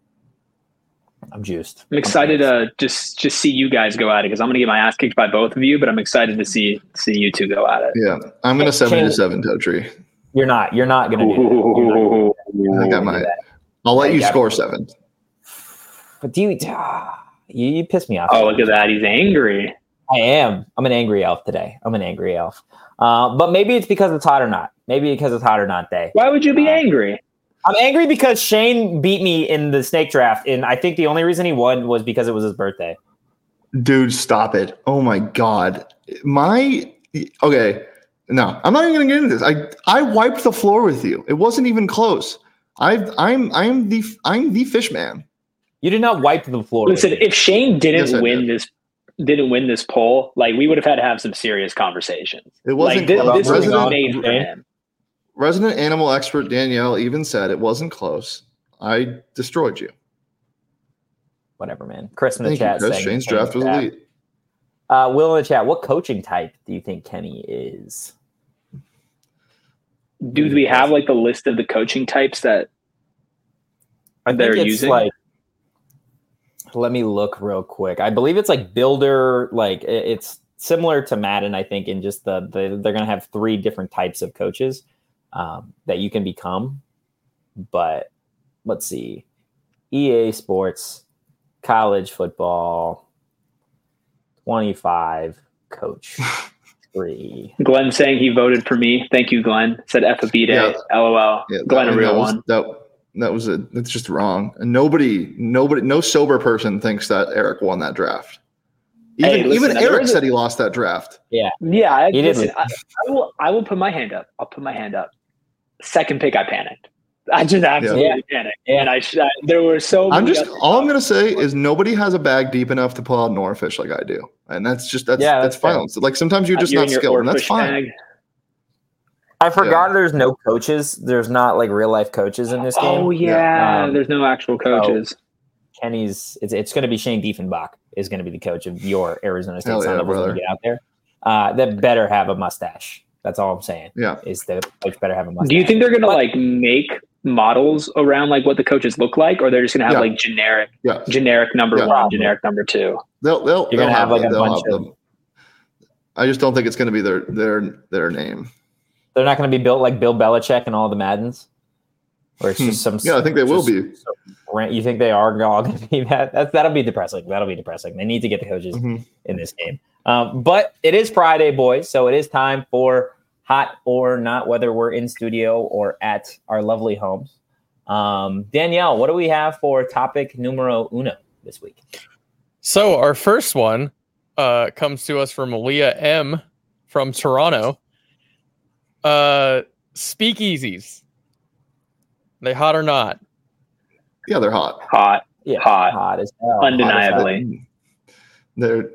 I'm juiced. I'm excited to just see you guys go at it because I'm going to get my ass kicked by both of you, but I'm excited to see you two go at it. Yeah, I'm going to 7-7 Totri. You're not going to do that. I think I might. I'll let you score 7. But you piss me off. Oh, look at that. He's angry. I am. I'm an angry elf today. But maybe it's because it's hot or not. Day. Why would you be angry? I'm angry because Shane beat me in the snake draft, and I think the only reason he won was because it was his birthday. Dude, stop it. Oh my God. Okay. No, I'm not even going to get into this. I wiped the floor with you. It wasn't even close. I'm the fish man. You did not wipe the floor. Listen, if Shane didn't win this poll, like we would have had to have some serious conversations. It wasn't like, this was made for him. Resident animal expert Danielle even said it wasn't close. I destroyed you. Whatever, man. Chris in the chat saying Shane's draft was elite. Will in the chat, what coaching type do you think Kenny is? Do we have like the list of the coaching types that they're using? Like, let me look real quick. I believe it's like builder, like it's similar to Madden, I think, in just they're going to have 3 different types of coaches that you can become. But let's see. EA Sports, college football, 25, coach 3. Glenn saying he voted for me. Thank you, Glenn. Said F-A-B day. LOL. Yeah, Glenn, a real one. That's just wrong. And nobody, no sober person thinks that Eric won that draft. Even Eric said he lost that draft. Yeah. Listen, I will put my hand up. I'll put my hand up. Second pick, I panicked. I just absolutely panicked. And there were so many. All I'm going to say is nobody has a bag deep enough to pull out an oarfish like I do. And that's fine. So, like sometimes you're just not skilled, and that's fine. Bag. I forgot there's no coaches. There's not like real life coaches in this game. Oh yeah, there's no actual coaches. So Kenny's it's going to be Shane Diefenbach is going to be the coach of your Arizona State Sun Devils when you get out there. That better have a mustache. That's all I'm saying. Yeah, is the coach better have a mustache. Do you think they're going to like make models around like what the coaches look like, or they're just going to have like generic number 1, generic number 2? They'll You're going to have like a bunch of. I just don't think it's going to be their name. They're not going to be built like Bill Belichick and all the Maddens, or it's just some. Yeah, I think they will be. You think they are all going to be that? That'll be depressing. They need to get the coaches in this game. But it is Friday, boys, so it is time for Hot or Not, whether we're in studio or at our lovely homes. Danielle, what do we have for topic numero uno this week? So our first one comes to us from Leah M. from Toronto. Speakeasies. They hot or not? Yeah, they're hot. Hot. Yeah, Hot as hell. Undeniably. Look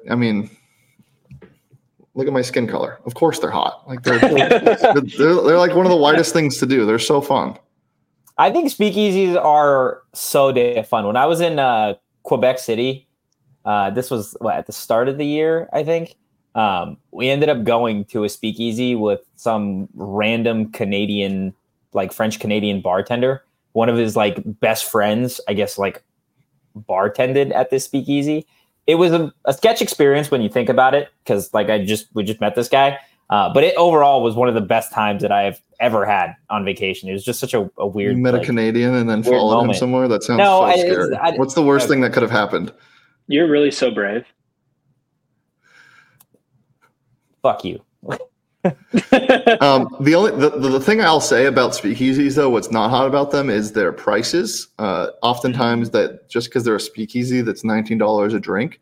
at my skin color. Of course they're hot. Like they're like one of the widest things to do. They're so fun. I think speakeasies are so damn fun. When I was in Quebec City, this was at the start of the year, I think. We ended up going to a speakeasy with some random Canadian, like French Canadian bartender. One of his like best friends, I guess, like bartended at this speakeasy. It was a sketch experience when you think about it, because like we just met this guy. But it overall was one of the best times that I've ever had on vacation. It was just such a weird. You met a Canadian and then followed him somewhere? That sounds so scary. What's the worst thing that could have happened? You're really so brave. Fuck you. The thing I'll say about speakeasies, though, what's not hot about them is their prices. Oftentimes, that just because they're a speakeasy, that's $19 a drink.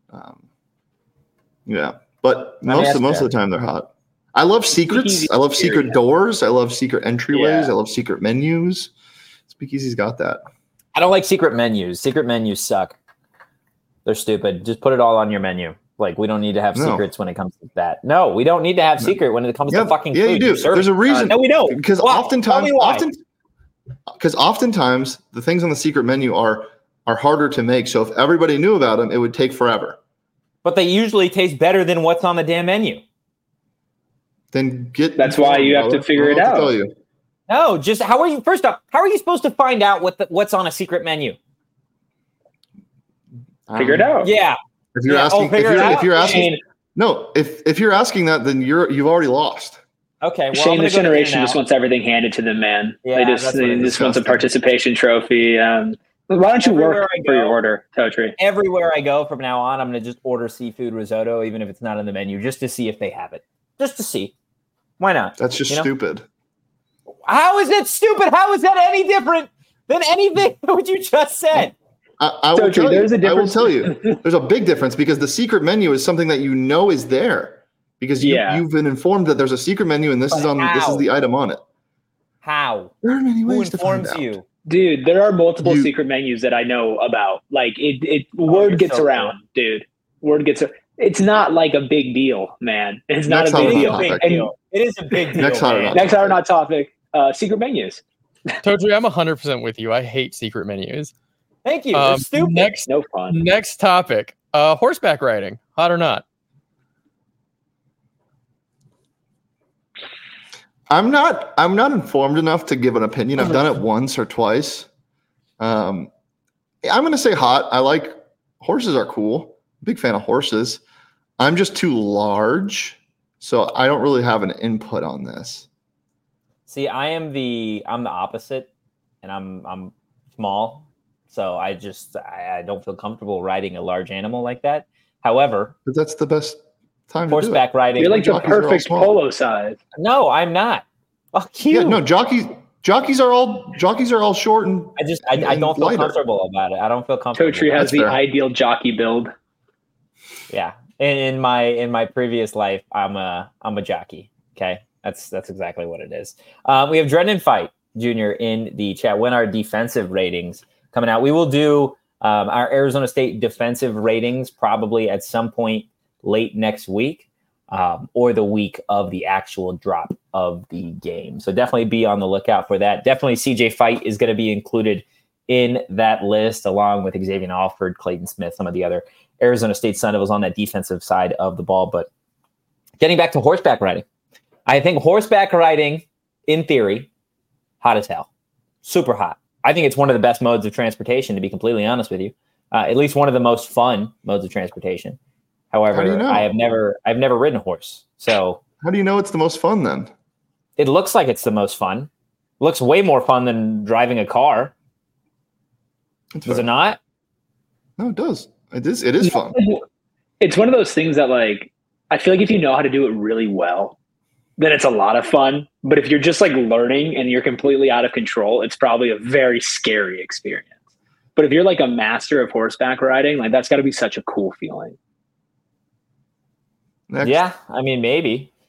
But most of the time they're hot. I love secrets. I love secret doors. I love secret entryways. I love secret menus. Speakeasy's got that. I don't like secret menus. Secret menus suck. They're stupid. Just put it all on your menu. Like, we don't need to have secrets when it comes to that. No, we don't need to have secret when it comes to fucking food. Yeah, you do. There's a reason. No, we don't. Because oftentimes the things on the secret menu are harder to make. So if everybody knew about them, it would take forever. But they usually taste better than what's on the damn menu. Then That's why you have to figure it out. Tell you. No, just how are you supposed to find out what's on a secret menu? Figure it out. Yeah. If you're asking that, then you've already lost. Okay. Well, Shane, this generation just wants everything handed to them, man. Yeah, they just want a participation trophy. Why don't you work for your order, Totri? Everywhere I go from now on, I'm going to just order seafood risotto, even if it's not on the menu, just to see if they have it. Just to see. Why not? That's just stupid. How is it stupid? How is that any different than anything what you just said? I will tell you. There's a big difference, because the secret menu is something that you know is there, because you've been informed that there's a secret menu and this is the item on it. How? There are many ways to find out. You? Dude, there are multiple secret menus that I know about. Like word gets around, dude. Word gets around. It's not like a big deal, man. It's not a big deal. It is a big deal. Next hot or not topic. Secret menus. Totri, I'm 100% with you. I hate secret menus. Thank you. They're stupid. No fun. Next topic. Horseback riding. Hot or not? I'm not informed enough to give an opinion. I've done it once or twice. I'm going to say hot. I like horses are cool. Big fan of horses. I'm just too large, so I don't really have an input on this. See, I'm the opposite, and I'm small, so I don't feel comfortable riding a large animal like that. However, but that's the best time. Horseback riding. You're like the perfect polo size. No, I'm not. Fuck you. Yeah, no, jockeys are all short and I don't feel comfortable about it. I don't feel comfortable. Totri has the ideal jockey build. Yeah. In my previous life, I'm a jockey. Okay. That's exactly what it is. We have Drennan Fight Jr. in the chat. When our defensive ratings coming out, we will do our Arizona State defensive ratings probably at some point late next week, or the week of the actual drop of the game. So definitely be on the lookout for that. Definitely CJ Fight is going to be included in that list, along with Xavier Alford, Clayton Smith, some of the other Arizona State Sun Devils on that defensive side of the ball. But getting back to horseback riding, I think horseback riding, in theory, hot as hell. Super hot. I think it's one of the best modes of transportation, to be completely honest with you. At least one of the most fun modes of transportation. However, I've never ridden a horse. So how do you know it's the most fun then? It looks like it's the most fun. It looks way more fun than driving a car. Does it not? No, it does. It is fun. It's one of those things that, like, I feel like if you know how to do it really well, then it's a lot of fun. But if you're just like learning and you're completely out of control, it's probably a very scary experience. But if you're like a master of horseback riding, like, that's got to be such a cool feeling. Next. Yeah, I mean, maybe.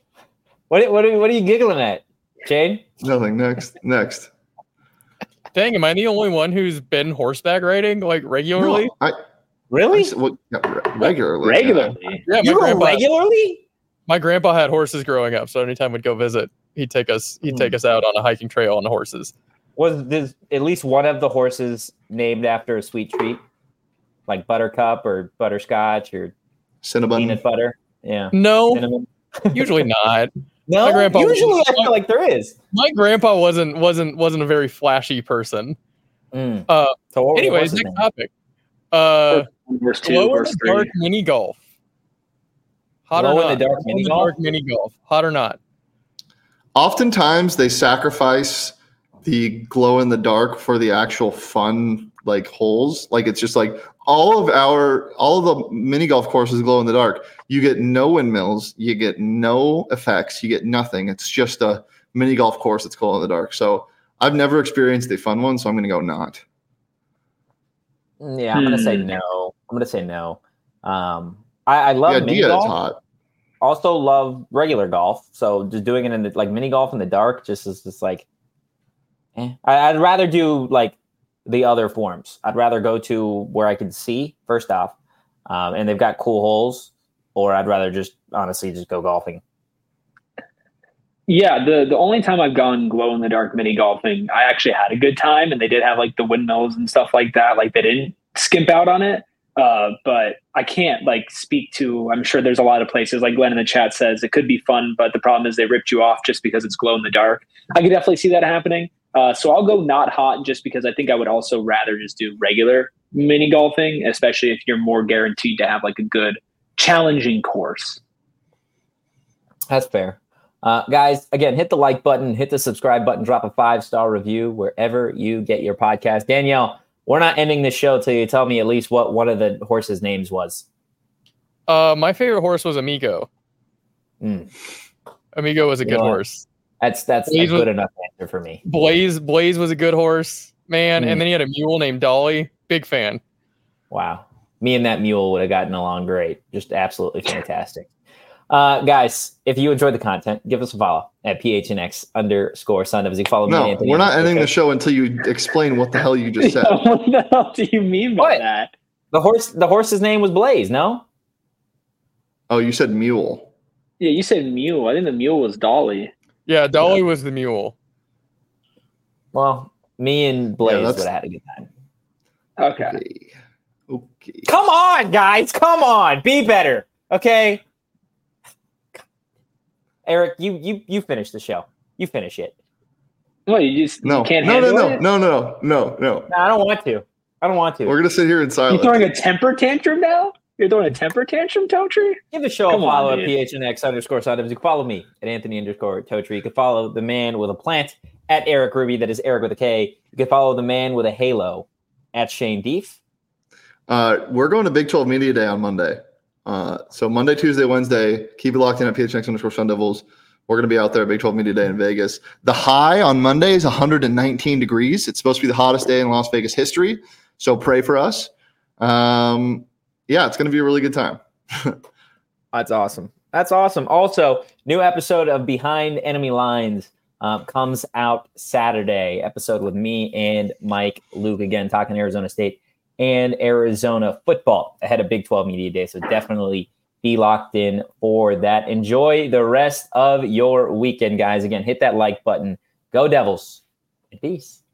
What are you giggling at, Shane? Nothing. Next. Dang, am I the only one who's been horseback riding like regularly? No, Really? Regularly. Regularly. Yeah, You were regularly? my grandpa had horses growing up, so anytime we'd go visit, he'd take us out on a hiking trail on the horses. Was this at least one of the horses named after a sweet treat, like buttercup or butterscotch or Cinnabon. peanut butter? Yeah. No, Cinnamon. Usually not. No, My grandpa usually was- I feel like there is. My grandpa wasn't a very flashy person. So Uh, what were the anyways, horses' next names? topic. Verse 2, Glow in verse the 3. dark mini golf. Hot Glow or in not? the dark Glow in mini the golf? dark mini golf. Hot or not? Oftentimes they sacrifice the glow in the dark for the actual fun like holes. Like it's just like all of the mini golf courses glow in the dark. You get no windmills, you get no effects, you get nothing. It's just a mini golf course that's glow in the dark. So I've never experienced a fun one, so I'm gonna go not. Yeah, I'm gonna say no. I love The mini idea is golf. hot. Also love regular golf. So just doing it in the like mini golf in the dark just is just like I'd rather do like the other forms. I'd rather go to where I can see first off, and they've got cool holes, or I'd rather just honestly just go golfing. Yeah, the only time I've gone glow in the dark mini golfing, I actually had a good time, and they did have like the windmills and stuff like that. Like they didn't skimp out on it. But I can't like speak to. I'm sure there's a lot of places like Glenn in the chat says it could be fun, but the problem is they ripped you off just because it's glow in the dark. I could definitely see that happening. So I'll go not hot just because I think I would also rather just do regular mini golfing, especially if you're more guaranteed to have like a good challenging course. That's fair. Guys, again, hit the like button, hit the subscribe button, drop a 5-star review wherever you get your podcast. Danielle, we're not ending the show till you tell me at least what one of the horses' names was. My favorite horse was Amigo. Amigo was a good horse. That's a Blaze good enough answer for me. Blaze was a good horse, man. And then he had a mule named Dolly. Big fan. Wow. Me and that mule would have gotten along great. Just absolutely fantastic. Guys, if you enjoyed the content, give us a follow at PHNX_Sun. You follow me. No, Anthony we're not ending the show until you explain what the hell you just said. What the hell do you mean by that? The horse's name was Blaze, no? Oh, you said mule. Yeah, you said mule. I think the mule was Dolly. Yeah, Dolly was the mule. Well, me and Blaze that's- would have had a good time. Okay. Okay. Come on, guys. Come on. Be better. Okay. Eric, you finish the show. You finish it. Well, you just No, you can't no, handle no, it? no. No, I don't want to. We're gonna sit here in You silence. throwing a temper tantrum now? You're throwing a temper tantrum, Totri? Give the show Come a on, follow at dude. PHNX_Sun. You can follow me at Anthony_Totri. You can follow the man with a plant at Eric Ruby. That is Eric with a K. You can follow the man with a halo at Shane Deef. We're going to Big 12 Media Day on Monday. So Monday, Tuesday, Wednesday, keep it locked in at PHNX_Sun Devils. We're going to be out there at Big 12 Media Day in Vegas. The high on Monday is 119 degrees. It's supposed to be the hottest day in Las Vegas history. So pray for us. Yeah, it's going to be a really good time. That's awesome. Also, new episode of Behind Enemy Lines comes out Saturday. Episode with me and Mike Luke, again, talking Arizona State and Arizona football ahead of Big 12 Media Day. So definitely be locked in for that. Enjoy the rest of your weekend, guys. Again, hit that like button. Go Devils. And peace.